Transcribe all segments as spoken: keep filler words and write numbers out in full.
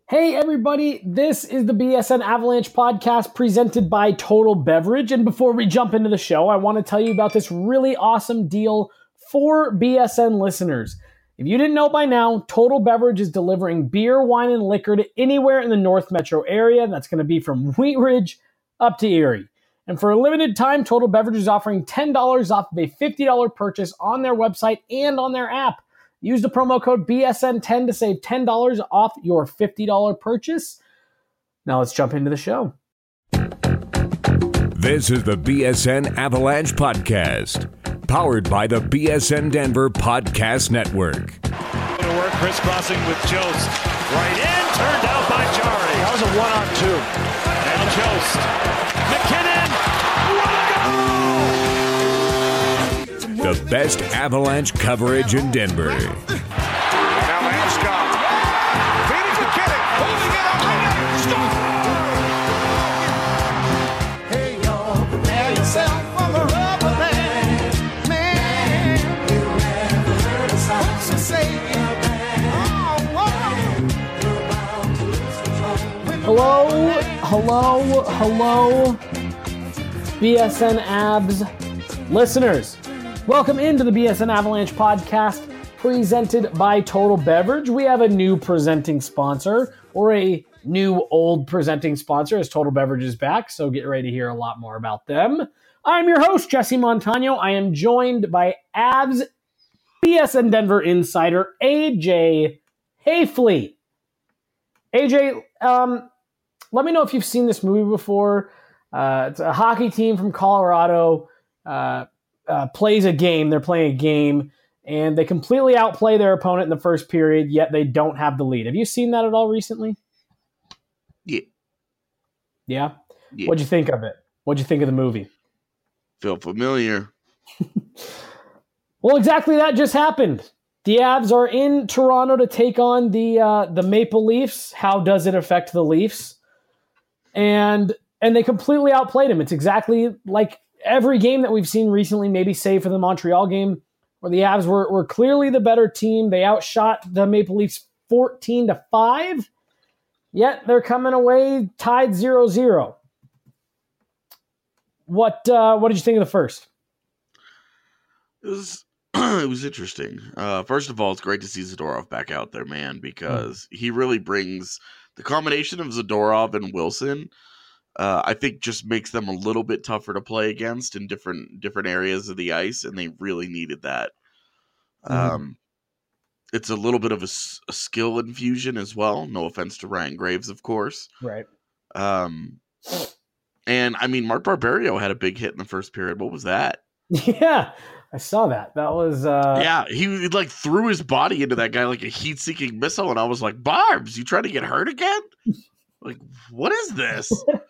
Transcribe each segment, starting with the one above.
Hey everybody, this is the B S N Avalanche podcast presented by Total Beverage. And before we jump into the show, I want to tell you about this really awesome deal for B S N listeners. If you didn't know by now, Total Beverage is delivering beer, wine, and liquor to anywhere in the North Metro area. That's going to be from Wheat Ridge up to Erie. And for a limited time, Total Beverage is offering ten dollars off of a fifty dollars purchase on their website and on their app. Use the promo code B S N ten to save ten dollars off your fifty dollars purchase. Now let's jump into the show. This is the B S N Avalanche Podcast, powered by the B S N Denver Podcast Network. To work, crisscrossing with Jost. Right in, turned out by Jari. That was a one-on-two. Now Jost. McKinnon. What a goal! The best Avalanche coverage in Denver. Now Landeskog. Feeding McKinnon. Holding it up. Score! Hey, y'all. Prepare yourself for the rubber band. Man, you never heard a song so say it. Hello, hello, hello, B S N Abs listeners. Welcome into the B S N Avalanche podcast presented by Total Beverage. We have a new presenting sponsor, or a new old presenting sponsor, as Total Beverage is back, so get ready to hear a lot more about them. I'm your host, Jesse Montano. I am joined by Avs B S N Denver insider A J Hayfley. A J, um, let me know if you've seen this movie before. Uh, it's a hockey team from Colorado. Uh, Uh, plays a game. They're playing a game, and they completely outplay their opponent in the first period, yet they don't have the lead. Have you seen that at all recently? Yeah. Yeah? Yeah. What'd you think of it? What'd you think of the movie? Feel familiar. Well, exactly that just happened. The Avs are in Toronto to take on the uh, the Maple Leafs. How does it affect the Leafs? And and they completely outplayed them. It's exactly like every game that we've seen recently, maybe save for the Montreal game, where the Avs were, were clearly the better team. They outshot the Maple Leafs fourteen to five, yet they're coming away tied zero zero. What uh, what did you think of the first? It was it was interesting. Uh, first of all, it's great to see Zadorov back out there, man, because mm. he really brings the combination of Zadorov and Wilson. Uh, I think just makes them a little bit tougher to play against in different different areas of the ice, and they really needed that. Mm-hmm. Um, it's a little bit of a, a skill infusion as well. No offense to Ryan Graves, of course. Right. Um, and, I mean, Mark Barberio had a big hit in the first period. What was that? Yeah, I saw that. That was... Uh... Yeah, he, like, threw his body into that guy like a heat-seeking missile, and I was like, Barbs, you trying to get hurt again? Like, what is this?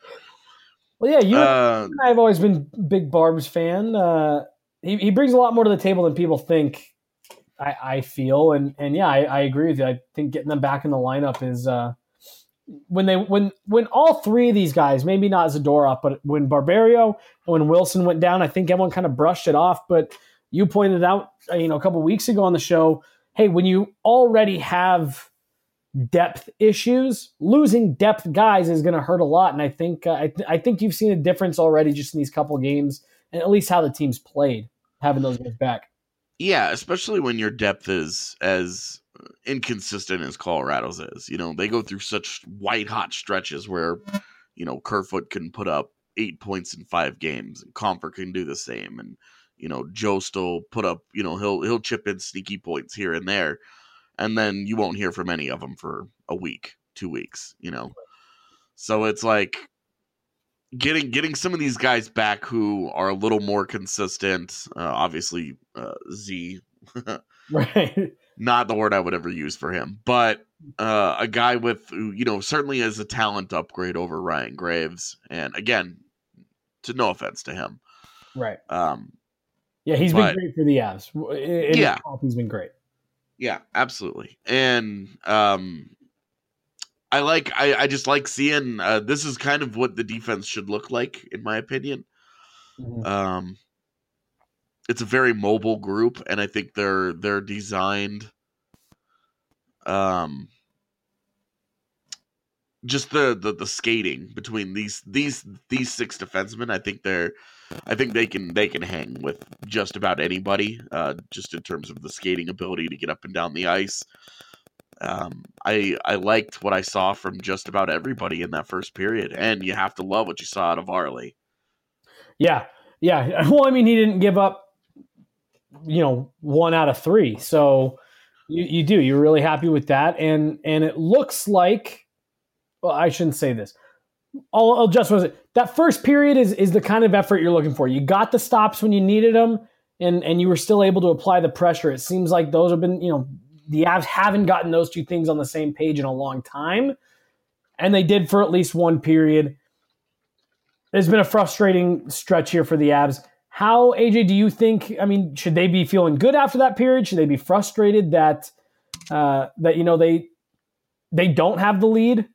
Well, yeah, you uh, and I have always been big Barb's fan. Uh, he he brings a lot more to the table than people think. I, I feel, and and yeah, I, I agree with you. I think getting them back in the lineup is uh, when they when when all three of these guys, maybe not Zadorov, but when Barberio and when Wilson went down, I think everyone kind of brushed it off. But you pointed out, you know, a couple weeks ago on the show, hey, when you already have depth issues, losing depth guys is going to hurt a lot, and I think uh, I, th- I think you've seen a difference already just in these couple games, and at least how the team's played, having those guys back. Yeah, especially when your depth is as inconsistent as Colorado's is. You know, they go through such white hot stretches where, you know, Kerfoot can put up eight points in five games, and Comfort can do the same, and you know, Jost will put up, you know, he'll he'll chip in sneaky points here and there. And then you won't hear from any of them for a week, two weeks, you know. So it's like getting getting some of these guys back who are a little more consistent. Uh, obviously, uh, Z, right? Not the word I would ever use for him, but uh, a guy with, you know, certainly as a talent upgrade over Ryan Graves. And again, to no offense to him, right? Um, yeah, he's but, been great for the Avs. In yeah, he's been great. Yeah, absolutely. And um, I like, I, I just like seeing, uh, this is kind of what the defense should look like, in my opinion. Mm-hmm. Um, it's a very mobile group, and I think they're, they're designed um, just the, the the skating between these these these six defensemen. I think they're I think they can they can hang with just about anybody. Uh, just in terms of the skating ability to get up and down the ice. Um, I I liked what I saw from just about everybody in that first period, and you have to love what you saw out of Varley. Yeah, yeah. Well, I mean, he didn't give up, you know, one out of three. So you, you do. You're really happy with that, and and it looks like, well, I shouldn't say this. I'll, I'll just was it that first period is is the kind of effort you're looking for. You got the stops when you needed them, and and you were still able to apply the pressure. It seems like those have been, you know. The Avs haven't gotten those two things on the same page in a long time, and they did for at least one period. There's been a frustrating stretch here for the Avs. How, A J, do you think, I mean, should they be feeling good after that period? Should they be frustrated that, uh, that you know, they they don't have the lead?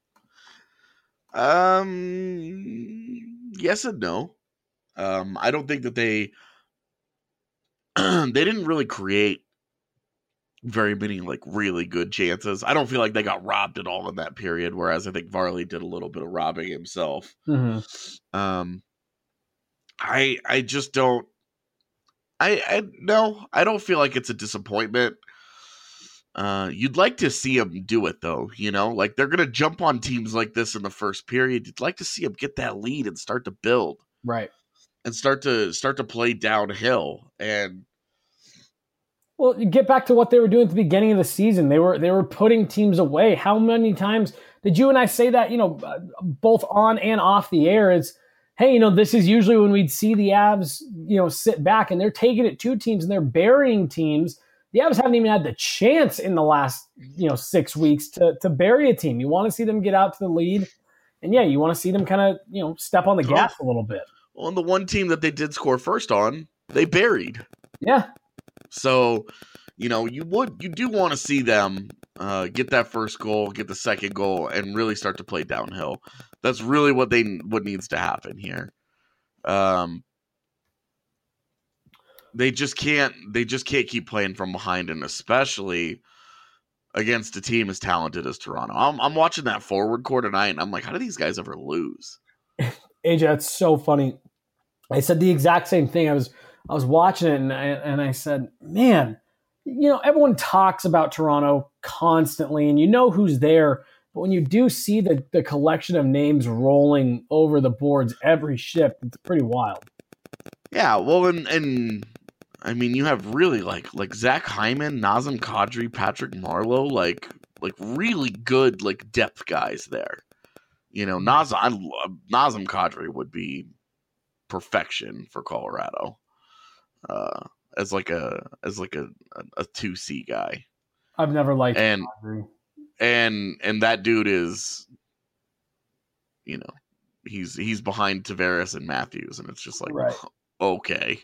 Um, yes and no. Um, I don't think that they they didn't really create very many like really good chances. I don't feel like they got robbed at all in that period, whereas I think Varley did a little bit of robbing himself. Mm-hmm. Um, I I just don't. I I no, I don't feel like it's a disappointment. Uh, you'd like to see them do it though, you know, like they're gonna jump on teams like this in the first period. You'd like to see them get that lead and start to build, right, and start to start to play downhill and. Well, you get back to what they were doing at the beginning of the season. They were they were putting teams away. How many times did you and I say that, you know, both on and off the air? Is, hey, you know, this is usually when we'd see the Avs, you know, sit back, and they're taking it to teams and they're burying teams. The Avs haven't even had the chance in the last, you know, six weeks to to bury a team. You want to see them get out to the lead, and yeah, you want to see them kind of, you know, step on the gas a little bit. Well, and the one team that they did score first on, they buried. Yeah. So, you know, you would you do want to see them uh, get that first goal, get the second goal, and really start to play downhill. That's really what they what needs to happen here. Um, they just can't they just can't keep playing from behind, and especially against a team as talented as Toronto. I'm I'm watching that forward core tonight, and I'm like, how do these guys ever lose? A J, that's so funny. I said the exact same thing. I was. I was watching it and I, and I said, man, you know, everyone talks about Toronto constantly and you know who's there. But when you do see the, the collection of names rolling over the boards every shift, it's pretty wild. Yeah, well, and, and I mean, you have really like like Zach Hyman, Nazem Kadri, Patrick Marleau, like like really good like depth guys there. You know, Nazem, I love, Nazem Kadri would be perfection for Colorado. Uh, as like a as like a a two C guy. I've never liked and and and that dude is, you know, he's he's behind Tavares and Matthews, and it's just like, right. Okay.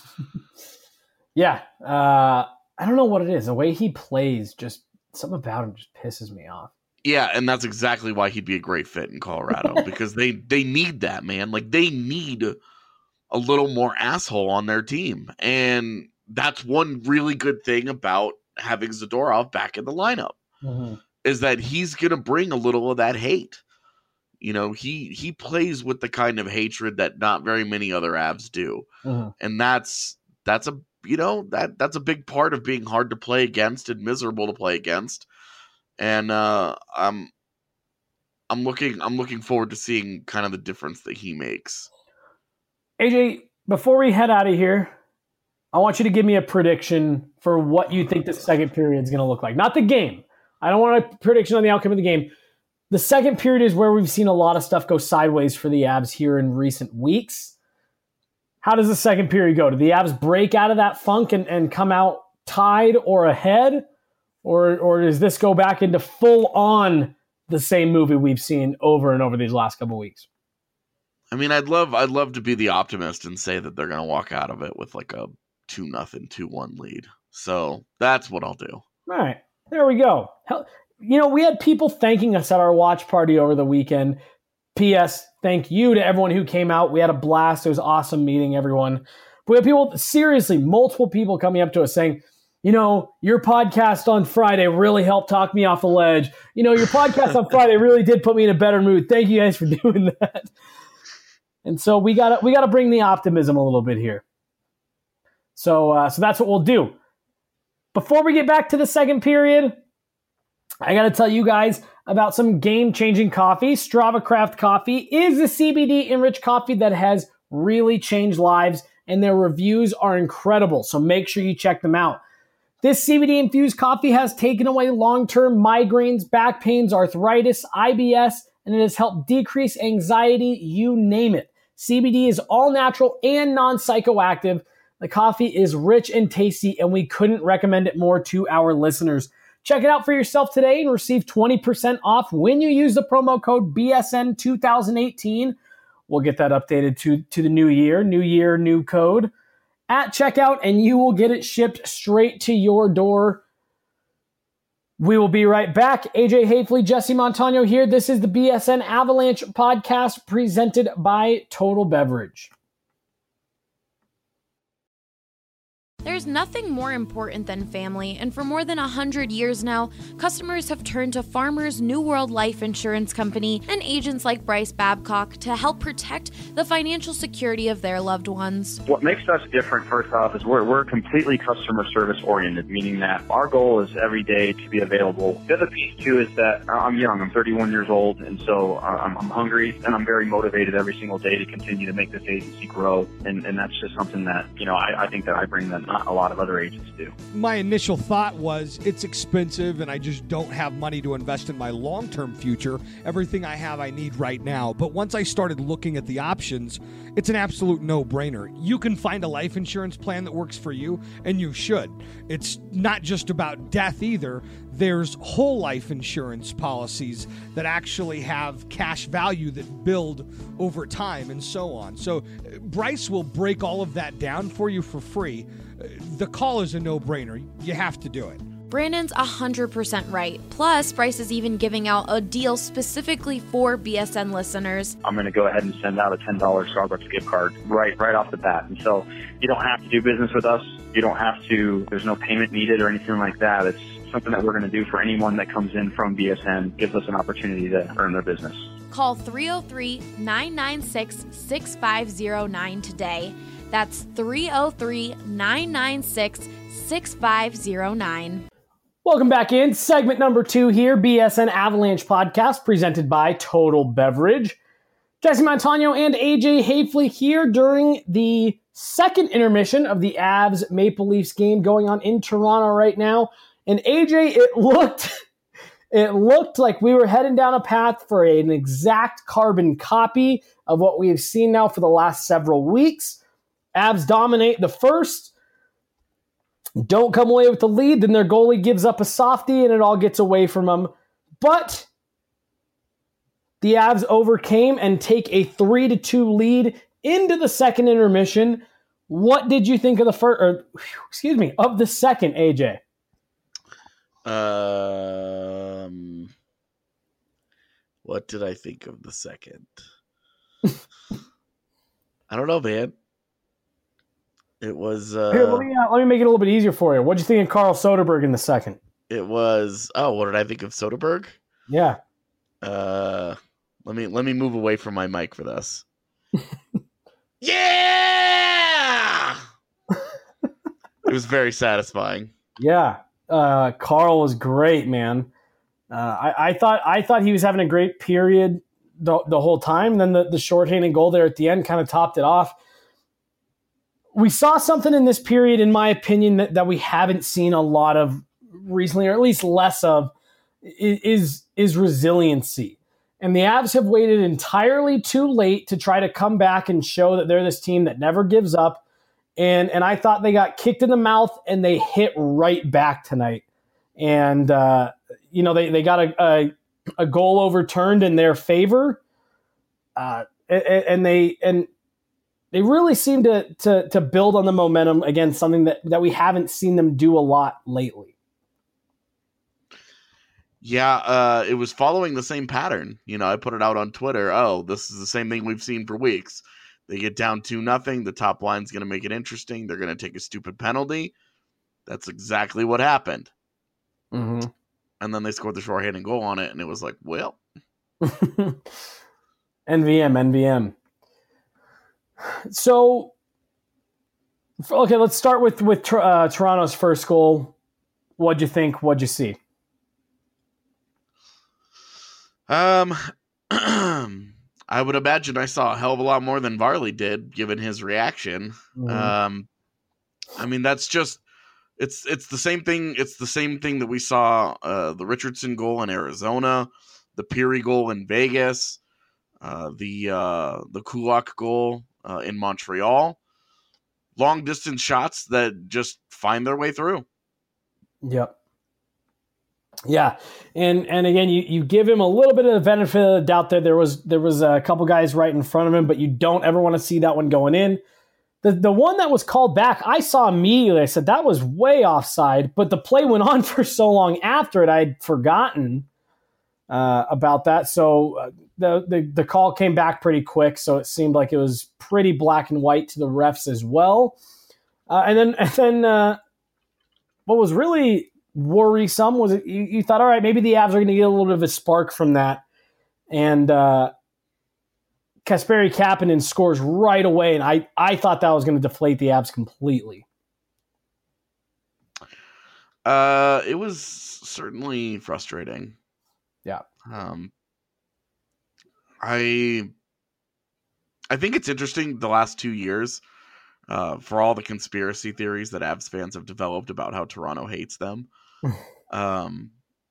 Yeah, uh, I don't know what it is. The way he plays, just something about him just pisses me off. Yeah, and that's exactly why he'd be a great fit in Colorado because they they need that, man. Like they need a little more asshole on their team. And that's one really good thing about having Zadorov back in the lineup mm-hmm. is that he's going to bring a little of that hate. You know, he, he plays with the kind of hatred that not very many other Avs do. Mm-hmm. And that's, that's a, you know, that that's a big part of being hard to play against and miserable to play against. And uh, I'm, I'm looking, I'm looking forward to seeing kind of the difference that he makes. A J, before we head out of here, I want you to give me a prediction for what you think the second period is going to look like. Not the game. I don't want a prediction on the outcome of the game. The second period is where we've seen a lot of stuff go sideways for the Avs here in recent weeks. How does the second period go? Do the Avs break out of that funk and, and come out tied or ahead? Or, or does this go back into full-on the same movie we've seen over and over these last couple weeks? I mean, I'd love I'd love to be the optimist and say that they're going to walk out of it with like a two nothing, two one lead. So that's what I'll do. All right. There we go. Hell, you know, we had people thanking us at our watch party over the weekend. P S. Thank you to everyone who came out. We had a blast. It was awesome meeting everyone. But we had people, seriously, multiple people coming up to us saying, you know, your podcast on Friday really helped talk me off the ledge. You know, your podcast on Friday really did put me in a better mood. Thank you guys for doing that. And so we got to we got to bring the optimism a little bit here. So uh, so that's what we'll do. Before we get back to the second period, I got to tell you guys about some game-changing coffee. Strava Craft Coffee is a C B D-enriched coffee that has really changed lives, and their reviews are incredible, so make sure you check them out. This C B D-infused coffee has taken away long-term migraines, back pains, arthritis, I B S, and it has helped decrease anxiety, you name it. C B D is all-natural and non-psychoactive. The coffee is rich and tasty, and we couldn't recommend it more to our listeners. Check it out for yourself today and receive twenty percent off when you use the promo code B S N two thousand eighteen. We'll get that updated to, to the new year, new year, new code at checkout, and you will get it shipped straight to your door. We will be right back. A J Hafley, Jesse Montano here. This is the B S N Avalanche podcast presented by Total Beverage. There's nothing more important than family, and for more than one hundred years now, customers have turned to Farmers New World Life Insurance Company and agents like Bryce Babcock to help protect the financial security of their loved ones. What makes us different, first off, is we're, we're completely customer service oriented, meaning that our goal is every day to be available. The other piece, too, is that I'm young. I'm thirty-one years old, and so I'm, I'm hungry, and I'm very motivated every single day to continue to make this agency grow, and, and that's just something that, you know, I, I think that I bring that not a lot of other agents do. My initial thought was it's expensive and I just don't have money to invest in my long-term future. Everything I have I need right now. But once I started looking at the options, it's an absolute no-brainer. You can find a life insurance plan that works for you, and you should. It's not just about death either. There's whole life insurance policies that actually have cash value that build over time and so on. So Bryce will break all of that down for you for free. The call is a no-brainer. You have to do it. Brandon's one hundred percent right. Plus, Bryce is even giving out a deal specifically for B S N listeners. I'm going to go ahead and send out a ten dollars Starbucks gift card right right off the bat. And so you don't have to do business with us. You don't have to, there's no payment needed or anything like that. It's something that we're going to do for anyone that comes in from B S N, gives us an opportunity to earn their business. Call three oh three, nine nine six, six five oh nine today. That's three oh three, nine nine six, six five oh nine. Welcome back in. Segment number two here, B S N Avalanche podcast presented by Total Beverage. Jesse Montano and A J Hafley here during the second intermission of the Avs Maple Leafs game going on in Toronto right now. And A J, it looked, it looked like we were heading down a path for an exact carbon copy of what we have seen now for the last several weeks. Avs dominate the first, don't come away with the lead, then their goalie gives up a softie and it all gets away from them. But the Avs overcame and take a three to two lead into the second intermission. What did you think of the first, or excuse me, of the second, A J? Um, what did I think of the second? I don't know, man. It was. Uh, Here, let me uh, let me make it a little bit easier for you. What did you think of Carl Soderberg in the second? It was. Oh, what did I think of Soderberg? Yeah. Uh, let me let me move away from my mic for this. Yeah. It was very satisfying. Yeah. Uh, Carl was great, man. Uh, I, I thought I thought he was having a great period the the whole time. And then the the shorthanded goal there at the end kind of topped it off. We saw something in this period, in my opinion, that, that we haven't seen a lot of recently, or at least less of, is, is resiliency. And the Avs have waited entirely too late to try to come back and show that they're this team that never gives up. And, and I thought they got kicked in the mouth and they hit right back tonight. And, uh, you know, they, they got a, a, a goal overturned in their favor. Uh, and, and they, and, They really seem to, to to build on the momentum against something that, that we haven't seen them do a lot lately. Yeah, uh, it was following the same pattern. You know, I put it out on Twitter. Oh, this is the same thing we've seen for weeks. They get down two nothing. The top line's going to make it interesting. They're going to take a stupid penalty. That's exactly what happened. Mm-hmm. And then they scored the shorthanded goal on it, and it was like, well. N V M, N V M. So, okay, let's start with, with uh, Toronto's first goal. What'd you think? What'd you see? Um, I would imagine I saw a hell of a lot more than Varley did, given his reaction. Mm-hmm. Um, I mean, that's just it's it's the same thing. It's the same thing that we saw uh, the Richardson goal in Arizona, the Peary goal in Vegas, uh, the uh, the Kulak goal uh, in Montreal. Long distance shots that just find their way through. Yep. Yeah, and and again, you, you give him a little bit of the benefit of the doubt there. There was there was a couple guys right in front of him, but you don't ever want to see that one going in. The the one that was called back, I saw immediately. I said that was way offside, but the play went on for so long after it, I'd forgotten uh, about that. So uh, the, the the call came back pretty quick, so it seemed like it was pretty black and white to the refs as well. Uh, and then and then uh, what was really worrisome was it, you, you thought, all right, maybe the Avs are going to get a little bit of a spark from that. And uh, Kasperi Kapanen scores right away, and I, I thought that was going to deflate the Avs completely. Uh, it was certainly frustrating. Yeah. Um, I I think it's interesting the last two years uh, for all the conspiracy theories that Avs fans have developed about how Toronto hates them. um,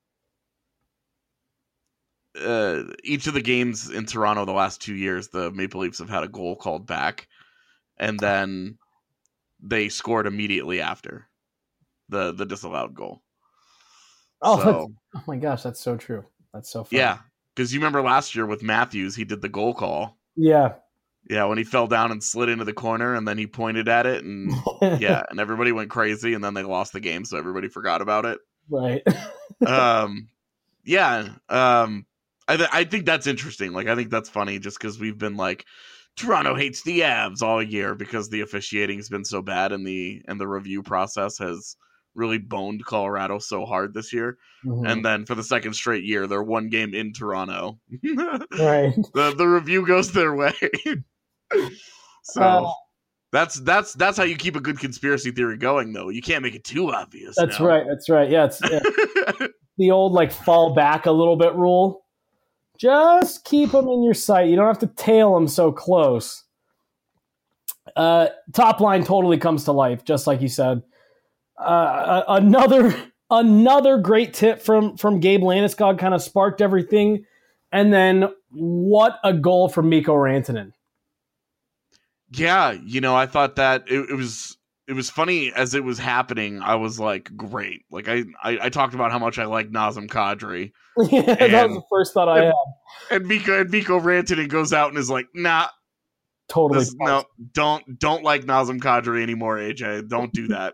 uh, each of the games in Toronto the last two years, the Maple Leafs have had a goal called back, and then they scored immediately after the the disallowed goal. Oh, so, oh my gosh, that's so true. That's so funny. Yeah, because you remember last year with Matthews, he did the goal call. Yeah. Yeah, when he fell down and slid into the corner, and then he pointed at it, and yeah, and everybody went crazy, and then they lost the game, so everybody forgot about it. Right. um, yeah. Um, I th- I think that's interesting. Like, I think that's funny, just because we've been like, Toronto hates the Avs all year because the officiating has been so bad, and the and the review process has really boned Colorado so hard this year. Mm-hmm. And then for the second straight year, they're one game in Toronto. Right. The the review goes their way. So uh, that's that's that's how you keep a good conspiracy theory going, though. You can't make it too obvious. That's now. right. That's right. Yeah, it's yeah. The old like fall back a little bit rule. Just keep them in your sight. You don't have to tail them so close. Uh, top line totally comes to life, just like you said. Uh, another another great tip from from Gabe Landeskog kind of sparked everything, and then what a goal from Mikko Rantanen. Yeah, you know, I thought that it, it was it was funny as it was happening. I was like, great. Like I I, I talked about how much I like Nazem Kadri. Yeah, and, that was the first thought I and, had. And Mikko and Mikko Rantanen goes out and is like, nah, totally. This, no, don't don't like Nazem Kadri anymore, A J. Don't do that.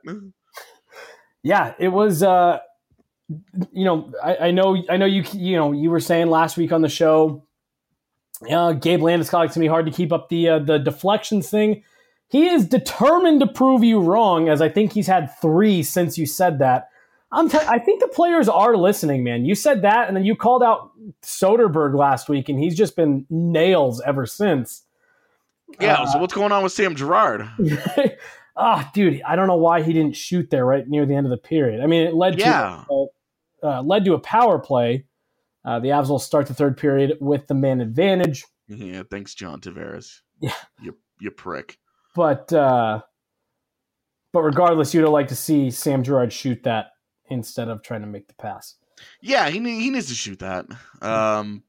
Yeah, it was. Uh, you know, I, I know, I know you. You know, you were saying last week on the show. Uh, Gabe Landeskog, to me, hard to keep up the uh, the deflections thing. He is determined to prove you wrong, as I think he's had three since you said that. I'm t- I think the players are listening, man. You said that, and then you called out Soderberg last week, and he's just been nails ever since. Yeah, uh, so what's going on with Sam Girard? Ah, oh, dude, I don't know why he didn't shoot there right near the end of the period. I mean, it led yeah. to uh, uh, led to a power play. Uh, the Avs will start the third period with the man advantage. Yeah, thanks, John Tavares. Yeah, you you prick. But uh, but regardless, you'd like to see Sam Girard shoot that instead of trying to make the pass. Yeah, he he needs to shoot that. Um,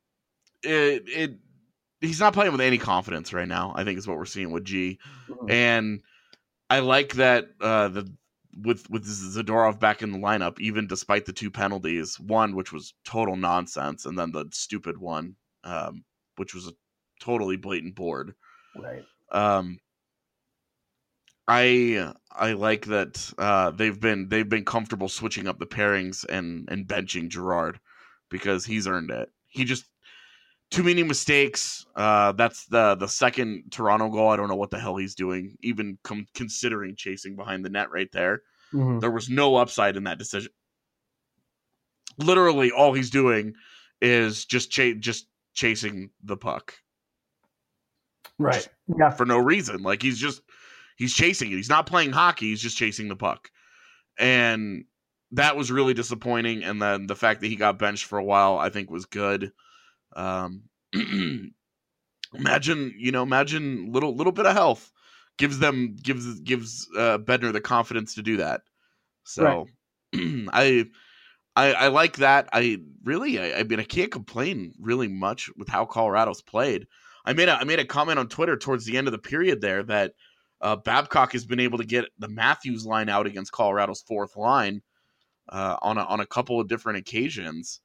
it it he's not playing with any confidence right now, I think is what we're seeing with G, mm-hmm. and I like that uh, the. With with Zadorov back in the lineup, even despite the two penalties, one which was total nonsense, and then the stupid one, um, which was a totally blatant board. Right. Um, I I like that uh, they've been they've been comfortable switching up the pairings and and benching Girard because he's earned it. He just too many mistakes. Uh, that's the the second Toronto goal. I don't know what the hell he's doing, even com- considering chasing behind the net right there. Mm-hmm. There was no upside in that decision. Literally, all he's doing is just ch- just chasing the puck. Right. Just Yeah. for no reason. Like, he's just he's chasing it. He's not playing hockey. He's just chasing the puck. And that was really disappointing. And then the fact that he got benched for a while, I think, was good. Um, imagine, you know, imagine little little bit of health gives them gives gives uh, Bednar the confidence to do that. So right. I, I I like that. I really I, I mean I can't complain really much with how Colorado's played. I made a I made a comment on Twitter towards the end of the period there that uh, Babcock has been able to get the Matthews line out against Colorado's fourth line uh, on a, on a couple of different occasions,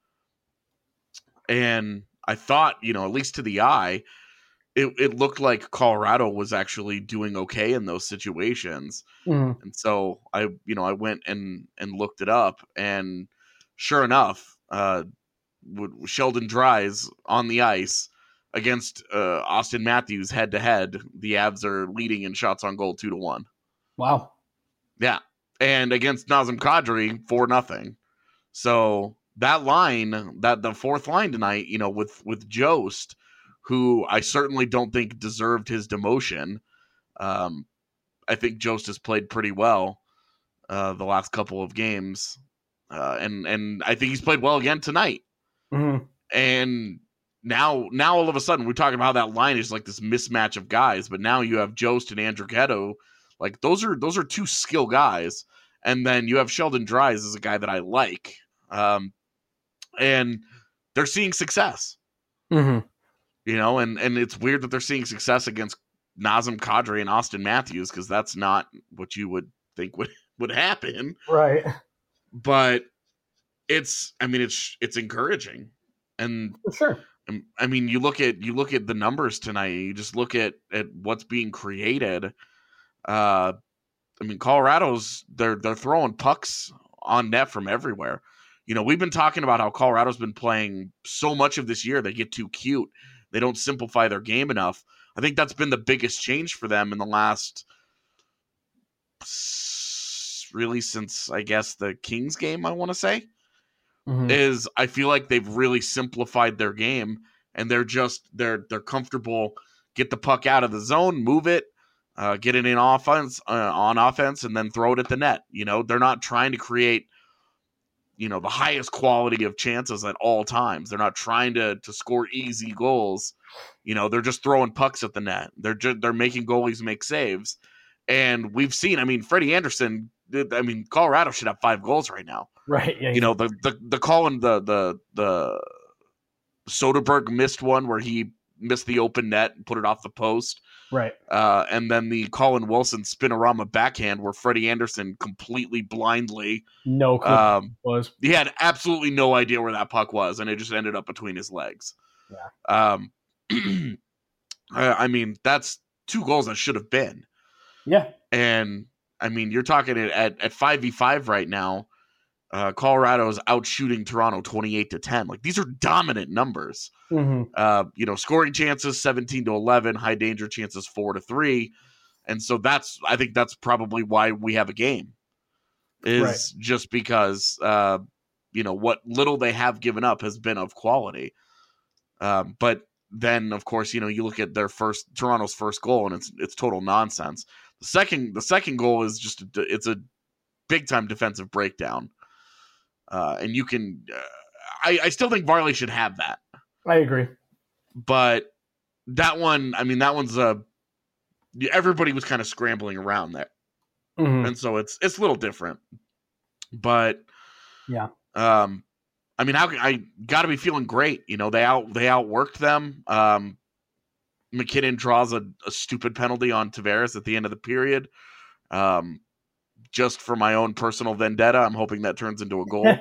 and I thought, you know, at least to the eye, it, it looked like Colorado was actually doing okay in those situations. Mm. And so I, you know, I went and, and looked it up, and sure enough, uh, Sheldon Dries on the ice against uh, Austin Matthews head to head, the Avs are leading in shots on goal two to one. Wow. Yeah. And against Nazem Kadri, four nothing. So that line, that the fourth line tonight, you know, with, with Jost, who I certainly don't think deserved his demotion. Um, I think Jost has played pretty well uh, the last couple of games. Uh, and, and I think he's played well again tonight. Mm-hmm. And now, now all of a sudden we're talking about how that line is like this mismatch of guys, but now you have Jost and Andrew Ghetto. Like those are, those are two skill guys. And then you have Sheldon Dries as a guy that I like. Um, and they're seeing success, mm-hmm. you know, and, and it's weird that they're seeing success against Nazem Kadri and Austin Matthews, because that's not what you would think would, would happen. Right. But it's, I mean, it's, it's encouraging. And For sure. I mean, you look at, you look at the numbers tonight, you just look at, at what's being created. Uh, I mean, Colorado's, they're, they're throwing pucks on net from everywhere. You know, we've been talking about how Colorado's been playing so much of this year, they get too cute. They don't simplify their game enough. I think that's been the biggest change for them in the last, really since, I guess, the Kings game, I want to say, mm-hmm. is I feel like they've really simplified their game, and they're just, they're, they're comfortable, get the puck out of the zone, move it, uh, get it in offense, uh, on offense, and then throw it at the net. You know, they're not trying to create, you know, the highest quality of chances at all times. They're not trying to to score easy goals. You know, they're just throwing pucks at the net. They're just, they're making goalies make saves. And we've seen, I mean, Freddie Anderson, I mean, Colorado should have five goals right now. Right. Yeah. You know, the the the Colin the the the Soderberg missed one where he missed the open net and put it off the post. Right. Uh, and then the Colin Wilson spinorama backhand where Freddie Anderson completely blindly, no clue um, was. He had absolutely no idea where that puck was, and it just ended up between his legs. Yeah. Um, I, I mean, that's two goals that should have been. Yeah. And I mean, you're talking at at five v five right now. Uh, Colorado is out shooting Toronto twenty-eight to ten. Like, these are dominant numbers. Mm-hmm. Uh, you know, scoring chances seventeen to eleven, high danger chances four to three. And so that's, I think that's probably why we have a game, is right. just because, uh, you know, what little they have given up has been of quality. Um, but then, of course, you know, you look at their first, Toronto's first goal, and it's it's total nonsense. The second, the second goal is just, a, it's a big time defensive breakdown. Uh, and you can, uh, I, I still think Varley should have that. I agree. But that one, I mean, that one's a, everybody was kind of scrambling around there. Mm-hmm. And so it's, it's a little different. But, yeah. Um, I mean, how I got to be feeling great. You know, they out, they outworked them. Um, McKinnon draws a, a stupid penalty on Tavares at the end of the period. Um, just for my own personal vendetta, I'm hoping that turns into a goal.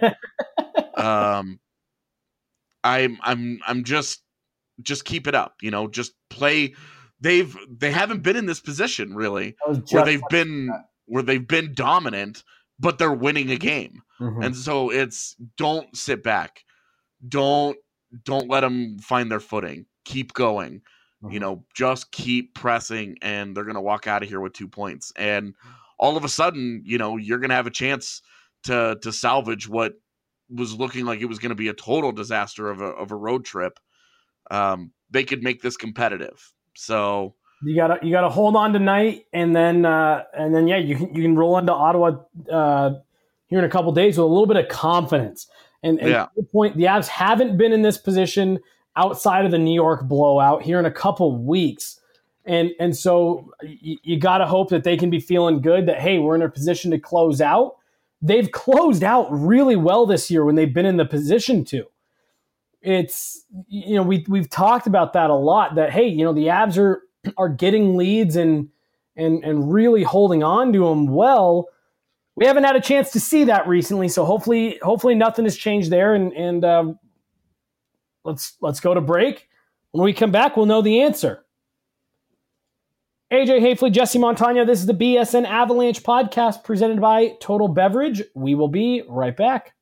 um, I'm, I'm, I'm just, just keep it up. You know, just play. They've, they haven't been in this position really, where they've been, that. where they've been dominant, but they're winning a game. Mm-hmm. And so it's, don't sit back. Don't, don't let them find their footing. Keep going. Mm-hmm. You know, just keep pressing, and they're going to walk out of here with two points. And all of a sudden, you know, you're going to have a chance to to salvage what was looking like it was going to be a total disaster of a of a road trip. Um, they could make this competitive. So you gotta you gotta hold on tonight, and then uh, and then yeah, you can you can roll into Ottawa uh, here in a couple days with a little bit of confidence. And, and yeah. to the point, the Avs haven't been in this position outside of the New York blowout here in a couple weeks. And and so you, you got to hope that they can be feeling good that, hey, we're in a position to close out. They've closed out really well this year when they've been in the position to. It's, you know, we, we've talked about that a lot, that, hey, you know, the Avs are, are getting leads and, and, and really holding on to them well. We haven't had a chance to see that recently, so hopefully hopefully nothing has changed there. And, and um, let's let's go to break. When we come back, we'll know the answer. A J Hafley, Jesse Montano, this is the B S N Avalanche podcast presented by Total Beverage. We will be right back.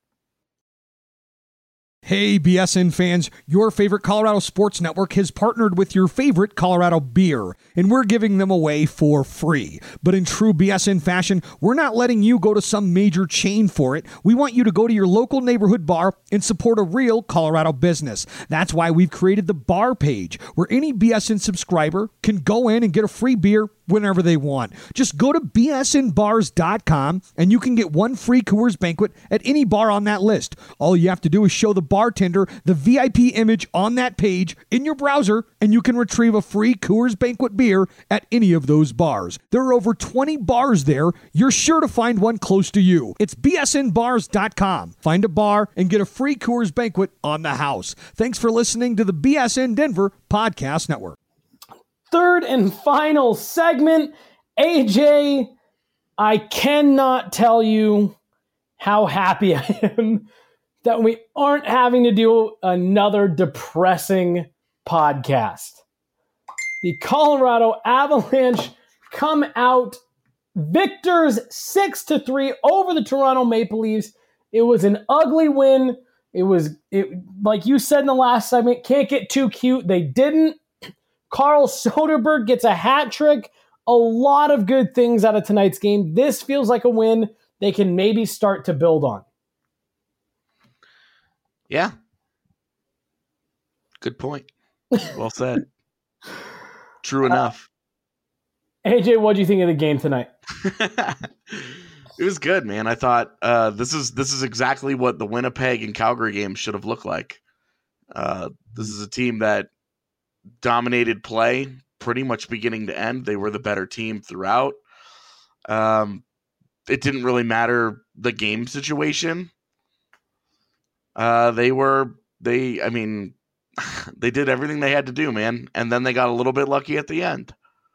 Hey, B S N fans, your favorite Colorado Sports Network has partnered with your favorite Colorado beer, and we're giving them away for free. But in true B S N fashion, we're not letting you go to some major chain for it. We want you to go to your local neighborhood bar and support a real Colorado business. That's why we've created the bar page, where any B S N subscriber can go in and get a free beer whenever they want. Just go to B S N bars dot com and you can get one free Coors Banquet at any bar on that list. All you have to do is show the bartender the V I P image on that page in your browser, and you can retrieve a free Coors Banquet beer at any of those bars. There are over twenty bars there. You're sure to find one close to you. It's B S N bars dot com. Find a bar and get a free Coors Banquet on the house. Thanks for listening to the B S N Denver Podcast Network. Third and final segment. A J, I cannot tell you how happy I am that we aren't having to do another depressing podcast. The Colorado Avalanche come out victors six to three over the Toronto Maple Leafs. It was an ugly win. It was, it, like you said in the last segment, can't get too cute. They didn't. Carl Soderberg gets a hat trick. A lot of good things out of tonight's game. This feels like a win they can maybe start to build on. Yeah. Good point. Well said. True enough. Uh, A J, what do you think of the game tonight? It was good, man. I thought uh, this is this is exactly what the Winnipeg and Calgary game should have looked like. Uh, this is a team that dominated play pretty much beginning to end. They were the better team throughout. Um, it didn't really matter the game situation. Uh, they were, they, I mean, they did everything they had to do, man. And then they got a little bit lucky at the end.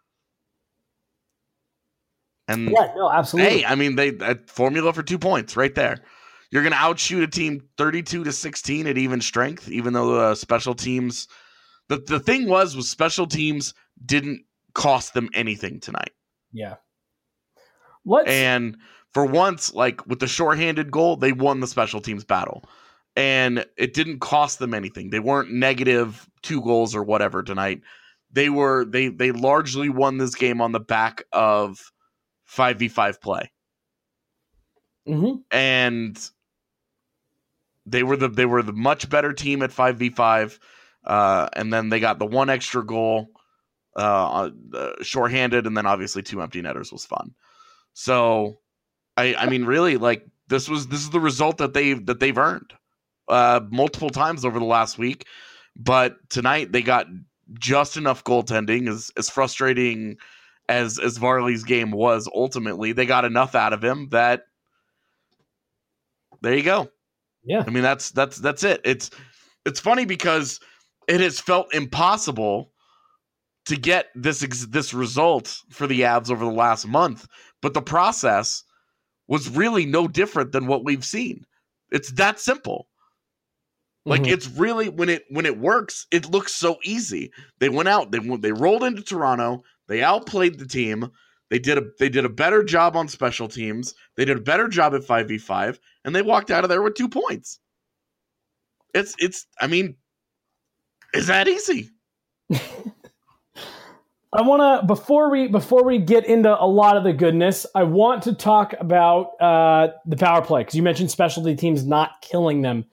And yeah, no, absolutely. Hey, I mean, they, that formula for two points right there. You're going to outshoot a team thirty-two to sixteen at even strength, even though uh, special teams, The the thing was, was special teams didn't cost them anything tonight. Yeah. Let's... And for once, like with the shorthanded goal, they won the special teams battle. And it didn't cost them anything. They weren't negative two goals or whatever tonight. They were they they largely won this game on the back of five v five play. Mm-hmm. And they were the they were the much better team at five v five. Uh, and then they got the one extra goal, uh, uh, shorthanded, and then obviously two empty netters was fun. So, I, I mean, really, like this was this is the result that they that they've earned uh, multiple times over the last week. But tonight they got just enough goaltending. As as frustrating as as Varley's game was, ultimately they got enough out of him that there you go. Yeah, I mean that's that's that's it. It's it's funny because it has felt impossible to get this this result for the Avs over the last month, but the process was really no different than what we've seen. It's that simple. Like mm-hmm. It's really when it when it works, it looks so easy. They went out, they they rolled into Toronto, they outplayed the team. They did a they did a better job on special teams. They did a better job at five v five, and they walked out of there with two points. It's it's I mean. Is that easy? I want to before we before we get into a lot of the goodness, I want to talk about uh, the power play because you mentioned specialty teams not killing them.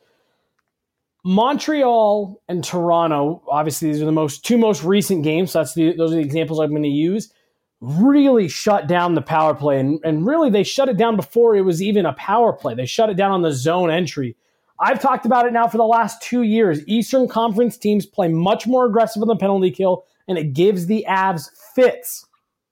Montreal and Toronto, obviously these are the most two most recent games. So that's the those are the examples I'm going to use. Really shut down the power play, and and really they shut it down before it was even a power play. They shut it down on the zone entry. I've talked about it now for the last two years. Eastern Conference teams play much more aggressive on the penalty kill, and it gives the Avs fits.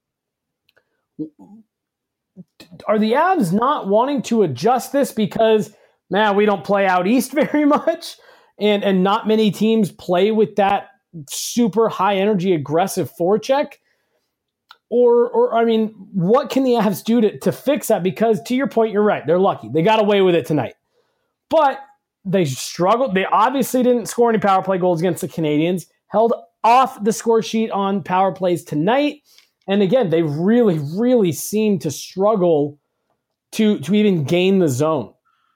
Are the Avs not wanting to adjust this because, man, we don't play out east very much, and, and not many teams play with that super high-energy, aggressive forecheck? Or, or, I mean, what can the Avs do to, to fix that? Because, to your point, you're right. They're lucky. They got away with it tonight. But they struggled. They obviously didn't score any power play goals against the Canadiens, held off the score sheet on power plays tonight. And again, they really, really seem to struggle to, to even gain the zone.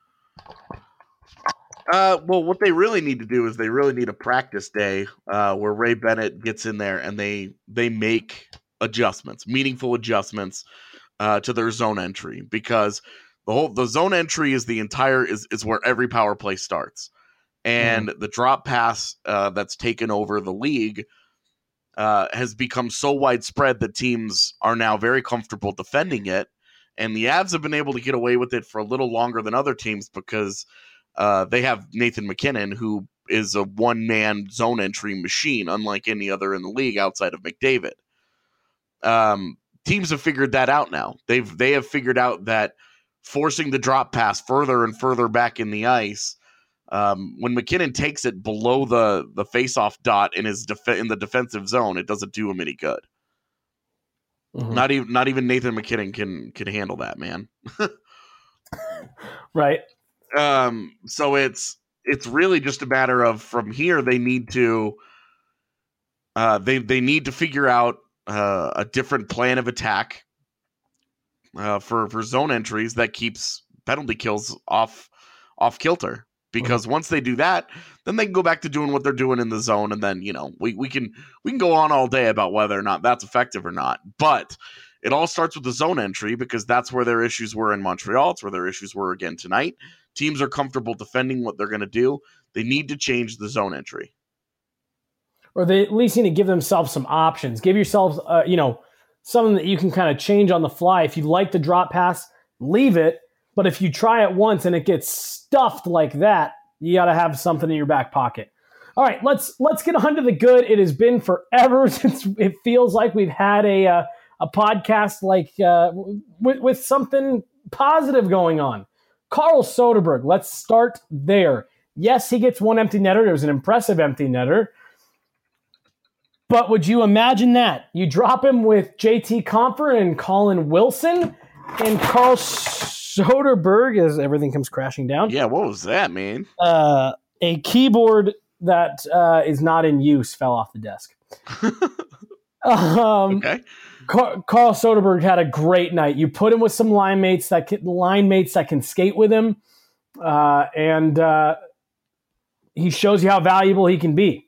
Uh, well, what they really need to do is they really need a practice day uh, where Ray Bennett gets in there and they they make adjustments, meaningful adjustments uh, to their zone entry, because the whole the zone entry is the entire is is where every power play starts, and mm. the drop pass uh, that's taken over the league uh, has become so widespread that teams are now very comfortable defending it, and the Avs have been able to get away with it for a little longer than other teams because uh, they have Nathan McKinnon, who is a one-man zone entry machine, unlike any other in the league outside of McDavid. Um, teams have figured that out now. They've they have figured out that forcing the drop pass further and further back in the ice, um, when McKinnon takes it below the the faceoff dot in his def- in the defensive zone, it doesn't do him any good. Mm-hmm. Not even not even Nathan McKinnon can can handle that, man. Right. Um. So it's it's really just a matter of from here they need to uh they they need to figure out uh, a different plan of attack uh, for for zone entries that keeps penalty kills off off kilter. Because mm-hmm. once they do that, then they can go back to doing what they're doing in the zone, and then you know we we can we can go on all day about whether or not that's effective or not. But it all starts with the zone entry because that's where their issues were in Montreal. It's where their issues were again tonight. Teams are comfortable defending what they're going to do. They need to change the zone entry. Or they at least need to give themselves some options. Give yourselves, uh, you know, something that you can kind of change on the fly. If you like the drop pass, leave it. But if you try it once and it gets stuffed like that, you got to have something in your back pocket. All right, let's let's get on to the good. It has been forever since it feels like we've had a uh, a podcast like uh, with, with something positive going on. Carl Soderberg, let's start there. Yes, he gets one empty netter. It was an impressive empty netter. But would you imagine that? You drop him with J T Compher and Colin Wilson, and Carl Soderberg, as everything comes crashing down. Yeah, what was that, man? Uh, a keyboard that uh, is not in use fell off the desk. um, okay. Carl, Carl Soderberg had a great night. You put him with some line mates that can, line mates that can skate with him, uh, and uh, he shows you how valuable he can be.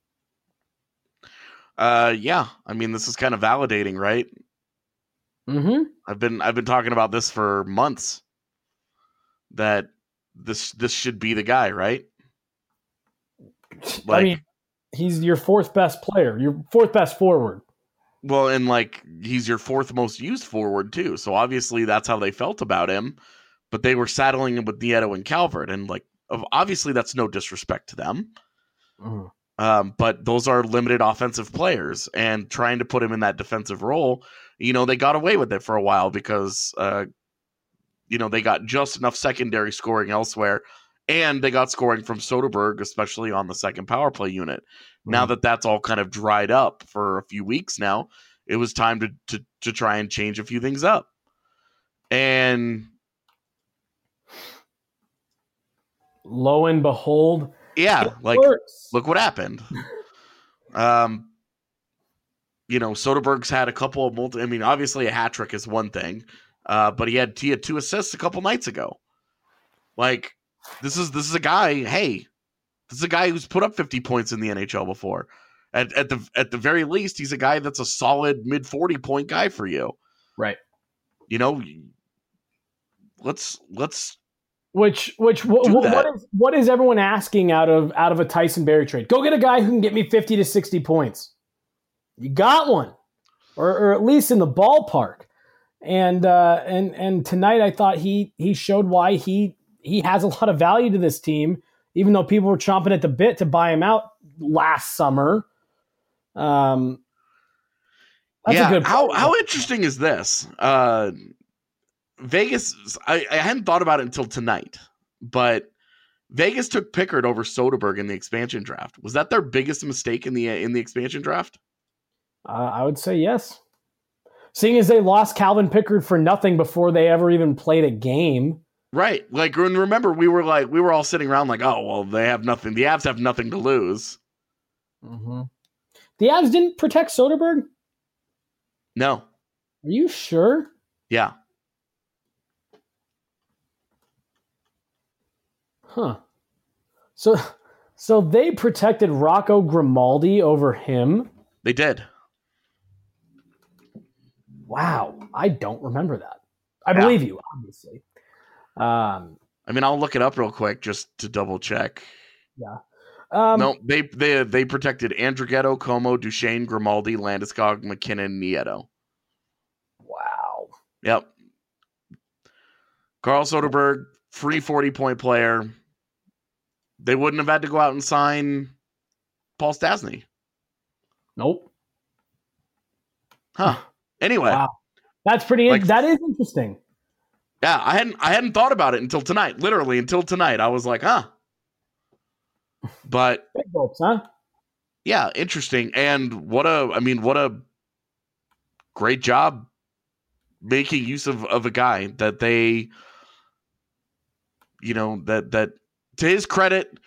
Uh, yeah. I mean, this is kind of validating, right? Mm-hmm. I've been I've been talking about this for months. That this this should be the guy, right? Like, I mean, he's your fourth best player, your fourth best forward. Well, and like he's your fourth most used forward too. So obviously that's how they felt about him. But they were saddling him with Nieto and Calvert, and like obviously that's no disrespect to them. Mm. Um, but those are limited offensive players, and trying to put him in that defensive role, you know, they got away with it for a while because, uh, you know, they got just enough secondary scoring elsewhere, and they got scoring from Soderberg, especially on the second power play unit. Mm-hmm. Now that that's all kind of dried up for a few weeks now, it was time to, to, to try and change a few things up. And lo and behold, yeah, it like, works. Look what happened. um, you know, Soderberg's had a couple of multi. I mean, obviously a hat trick is one thing, uh, but he had he had two assists a couple nights ago. Like, this is this is a guy. Hey, this is a guy who's put up fifty points in the N H L before. At at the at the very least, he's a guy that's a solid mid forty point guy for you. Right. You know, let's let's which which wh- wh- what is what is everyone asking out of out of a Tyson Barrie trade? Go get a guy who can get me fifty to sixty points. You got one, or or at least in the ballpark. And uh, and and tonight, I thought he he showed why he he has a lot of value to this team, even though people were chomping at the bit to buy him out last summer. Um, that's yeah. a good how how interesting is this? Uh, Vegas. I, I hadn't thought about it until tonight, but Vegas took Pickard over Soderberg in the expansion draft. Was that their biggest mistake in the in the expansion draft? Uh, I would say yes. Seeing as they lost Calvin Pickard for nothing before they ever even played a game. Right. Like, remember, we were like, we were all sitting around like, oh, well, they have nothing. The Avs have nothing to lose. Mm-hmm. The Avs didn't protect Soderberg? No. Are you sure? Yeah. Huh. So, so they protected Rocco Grimaldi over him? They did. Wow, I don't remember that. I yeah. believe you, obviously. Um, I mean, I'll look it up real quick just to double check. Yeah. Um, no, they they they protected Andrighetto, Como, Duchesne, Grimaldi, Landeskog, McKinnon, Nieto. Wow. Yep. Carl Soderberg, free forty-point player. They wouldn't have had to go out and sign Paul Stastny. Nope. Huh. Anyway, wow. That's pretty. Like, that is interesting. Yeah, I hadn't I hadn't thought about it until tonight. Literally until tonight, I was like, huh. But big hopes, huh? Yeah, interesting. And what a, I mean, what a great job making use of of a guy that they, you know, that that to his credit,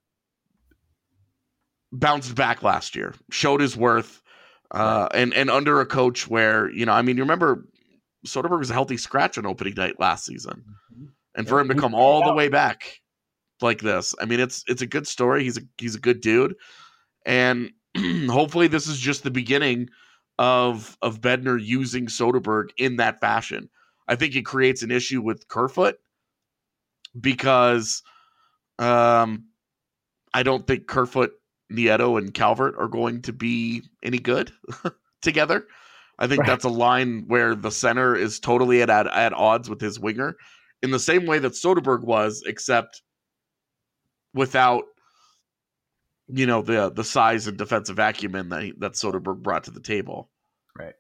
bounced back last year, showed his worth. Uh, and, and under a coach where, you know, I mean, you remember Soderberg was a healthy scratch on opening night last season. And for him to come all the way back like this, I mean, it's it's a good story. He's a he's a good dude. And hopefully this is just the beginning of of Bednar using Soderberg in that fashion. I think it creates an issue with Kerfoot because um, I don't think Kerfoot, Nieto, and Calvert are going to be any good together. I think right. that's a line where the center is totally at, at at odds with his winger in the same way that Soderberg was, except without, you know, the the size and defensive acumen that he, that Soderberg brought to the table. Right.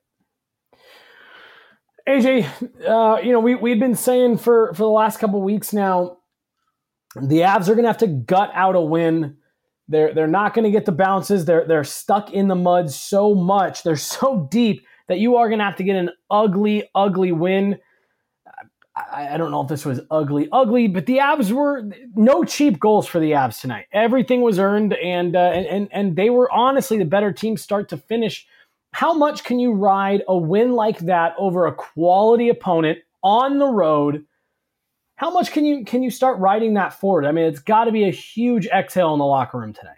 A J, uh, you know, we we've been saying for for the last couple of weeks now, the Avs are going to have to gut out a win. They're they're not going to get the bounces. They're they're stuck in the mud so much. They're so deep that you are going to have to get an ugly, ugly win. I, I don't know if this was ugly, ugly, but the Avs were no cheap goals for the Avs tonight. Everything was earned, and uh, and and they were honestly the better team start to finish. How much can you ride a win like that over a quality opponent on the road? How much can you can you start riding that forward? I mean, it's got to be a huge exhale in the locker room tonight.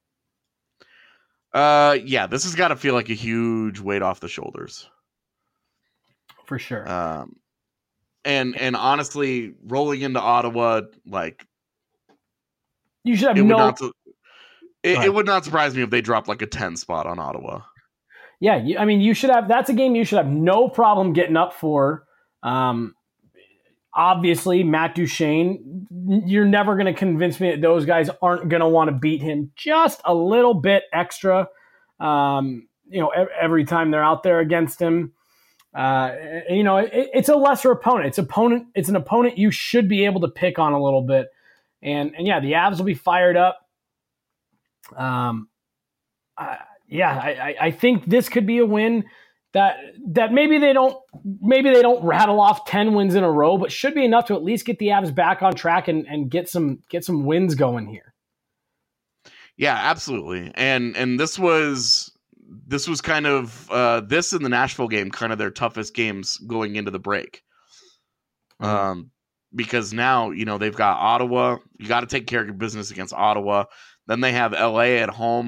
Uh, yeah, this has got to feel like a huge weight off the shoulders, for sure. Um, and and honestly, rolling into Ottawa, like you should have it no. Would not, it, it would not surprise me if they dropped like a ten spot on Ottawa. Yeah, you, I mean, you should have. That's a game you should have no problem getting up for. Um, Obviously, Matt Duchesne, you're never going to convince me that those guys aren't going to want to beat him just a little bit extra, um, you know, every time they're out there against him. Uh, and, you know, it, it's a lesser opponent. It's opponent. It's an opponent you should be able to pick on a little bit. And, and yeah, the Avs will be fired up. Um, uh, yeah, I, I think this could be a win. That that maybe they don't maybe they don't rattle off ten wins in a row, but should be enough to at least get the Avs back on track and, and get some get some wins going here. Yeah, absolutely. And and this was this was kind of uh, this and the Nashville game, kind of their toughest games going into the break. Mm-hmm. Um, because now, you know, they've got Ottawa. You got to take care of your business against Ottawa. Then they have L A at home.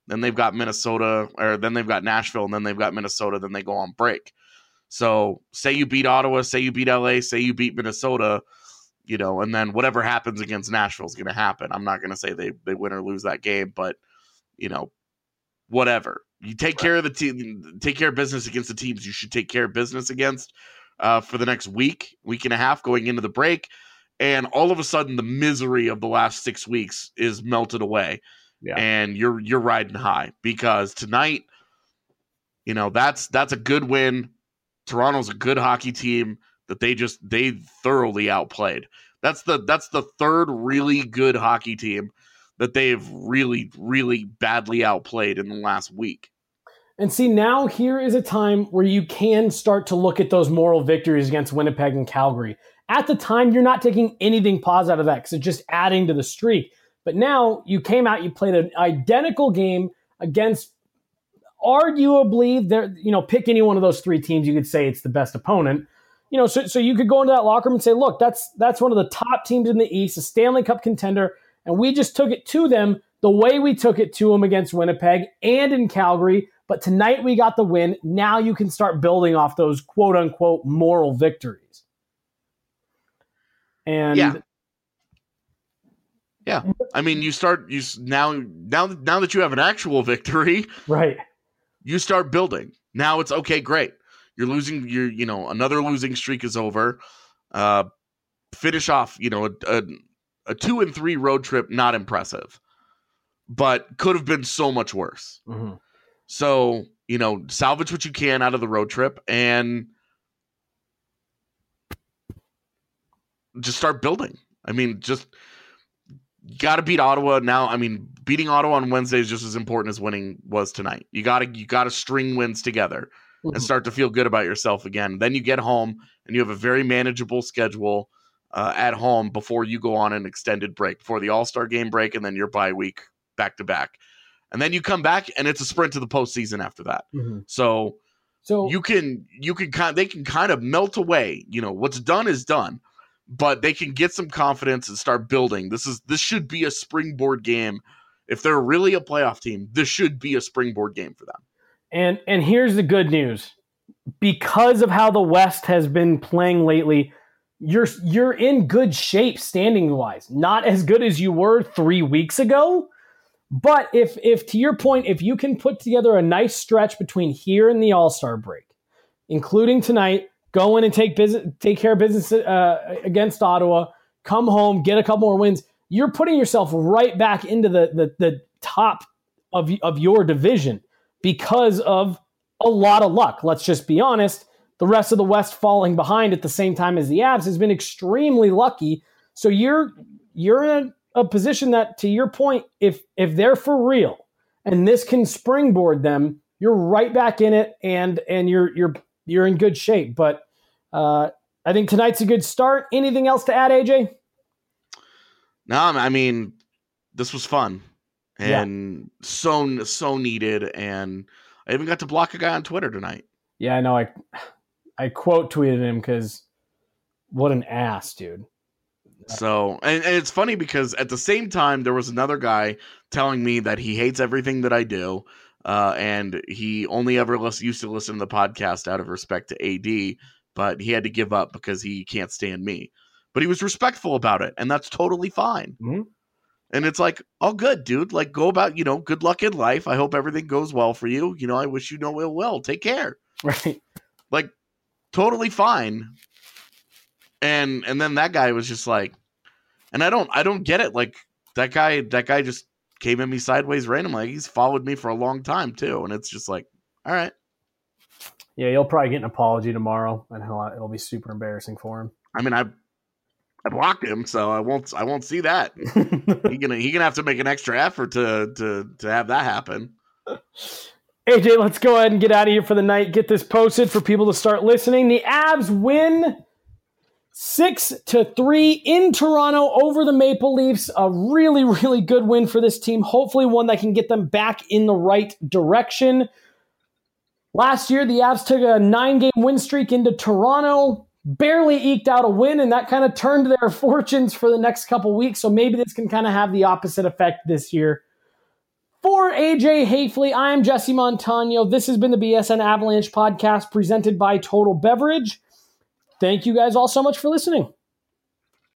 Then they've got Minnesota, or then they've got Nashville, and then they've got Minnesota. Then they go on break. So say you beat Ottawa, say you beat L A, say you beat Minnesota, you know, and then whatever happens against Nashville is going to happen. I'm not going to say they, they win or lose that game, but, you know, whatever. You take right. care of the team, take care of business against the teams you should take care of business against uh, for the next week, week and a half going into the break. And all of a sudden, the misery of the last six weeks is melted away. Yeah. And you're you're riding high because tonight, you know, that's that's a good win. Toronto's a good hockey team that they just they thoroughly outplayed. That's the that's the third really good hockey team that they've really, really badly outplayed in the last week. And see, now here is a time where you can start to look at those moral victories against Winnipeg and Calgary. At the time, you're not taking anything positive out of that because it's just adding to the streak. But now you came out, you played an identical game against arguably, there, you know, pick any one of those three teams, you could say it's the best opponent. You know, so so you could go into that locker room and say, look, that's that's one of the top teams in the East, a Stanley Cup contender, and we just took it to them the way we took it to them against Winnipeg and in Calgary. But tonight we got the win. Now you can start building off those quote-unquote moral victories. And yeah. Yeah. I mean, you start you now now now that you have an actual victory, right? You start building. Now it's okay, great. You're losing you're you know, another losing streak is over. Uh finish off, you know, a, a, a two and three road trip, not impressive. But could have been so much worse. Mm-hmm. So, you know, salvage what you can out of the road trip and just start building. I mean, just got to beat Ottawa now. I mean, beating Ottawa on Wednesday is just as important as winning was tonight. You got to you got to string wins together mm-hmm. and start to feel good about yourself again. Then you get home and you have a very manageable schedule uh, at home before you go on an extended break, before the All-Star game break, and then your bye week back to back. And then you come back and it's a sprint to the postseason after that. Mm-hmm. So, so you can you can kind they can kind of melt away. You know, what's done is done, but they can get some confidence and start building. This is this should be a springboard game. If they're really a playoff team, this should be a springboard game for them. And and here's the good news. Because of how the West has been playing lately, you're you're in good shape standing wise. Not as good as you were three weeks ago. But if, if to your point, if you can put together a nice stretch between here and the All-Star break, including tonight, go in and take business, take care of business uh, against Ottawa, come home, get a couple more wins, you're putting yourself right back into the the, the top of, of your division because of a lot of luck. Let's just be honest. The rest of the West falling behind at the same time as the Avs has been extremely lucky. So you're you're in a a position that, to your point, if if they're for real and this can springboard them, you're right back in it and and you're you're you're in good shape. But uh, I think tonight's a good start. Anything else to add, A J? No, I mean, this was fun and yeah. so so needed. And I even got to block a guy on Twitter tonight. Yeah, I know. I I quote tweeted him because what an ass, dude. So, and, and it's funny because at the same time, there was another guy telling me that he hates everything that I do. Uh, and he only ever list, used to listen to the podcast out of respect to A D, but he had to give up because he can't stand me. But he was respectful about it, and that's totally fine. Mm-hmm. And it's like, oh, good, dude. Like, go about, you know, good luck in life. I hope everything goes well for you. You know, I wish you no ill will. Take care. Right. Like, totally fine. And and then that guy was just like, and I don't I don't get it. Like that guy that guy just came at me sideways randomly. Like, he's followed me for a long time too, and it's just like, all right. Yeah, you'll probably get an apology tomorrow, and he'll, it'll be super embarrassing for him. I mean, I I blocked him, so I won't I won't see that. he gonna he gonna have to make an extra effort to to to have that happen. A J, let's go ahead and get out of here for the night. Get this posted for people to start listening. The Avs win Six to three in Toronto over the Maple Leafs. A really, really good win for this team. Hopefully one that can get them back in the right direction. Last year, the Avs took a nine-game win streak into Toronto, barely eked out a win, and that kind of turned their fortunes for the next couple weeks. So maybe this can kind of have the opposite effect this year. For A J Hafley, I'm Jesse Montano. This has been the B S N Avalanche podcast presented by Total Beverage. Thank you guys all so much for listening.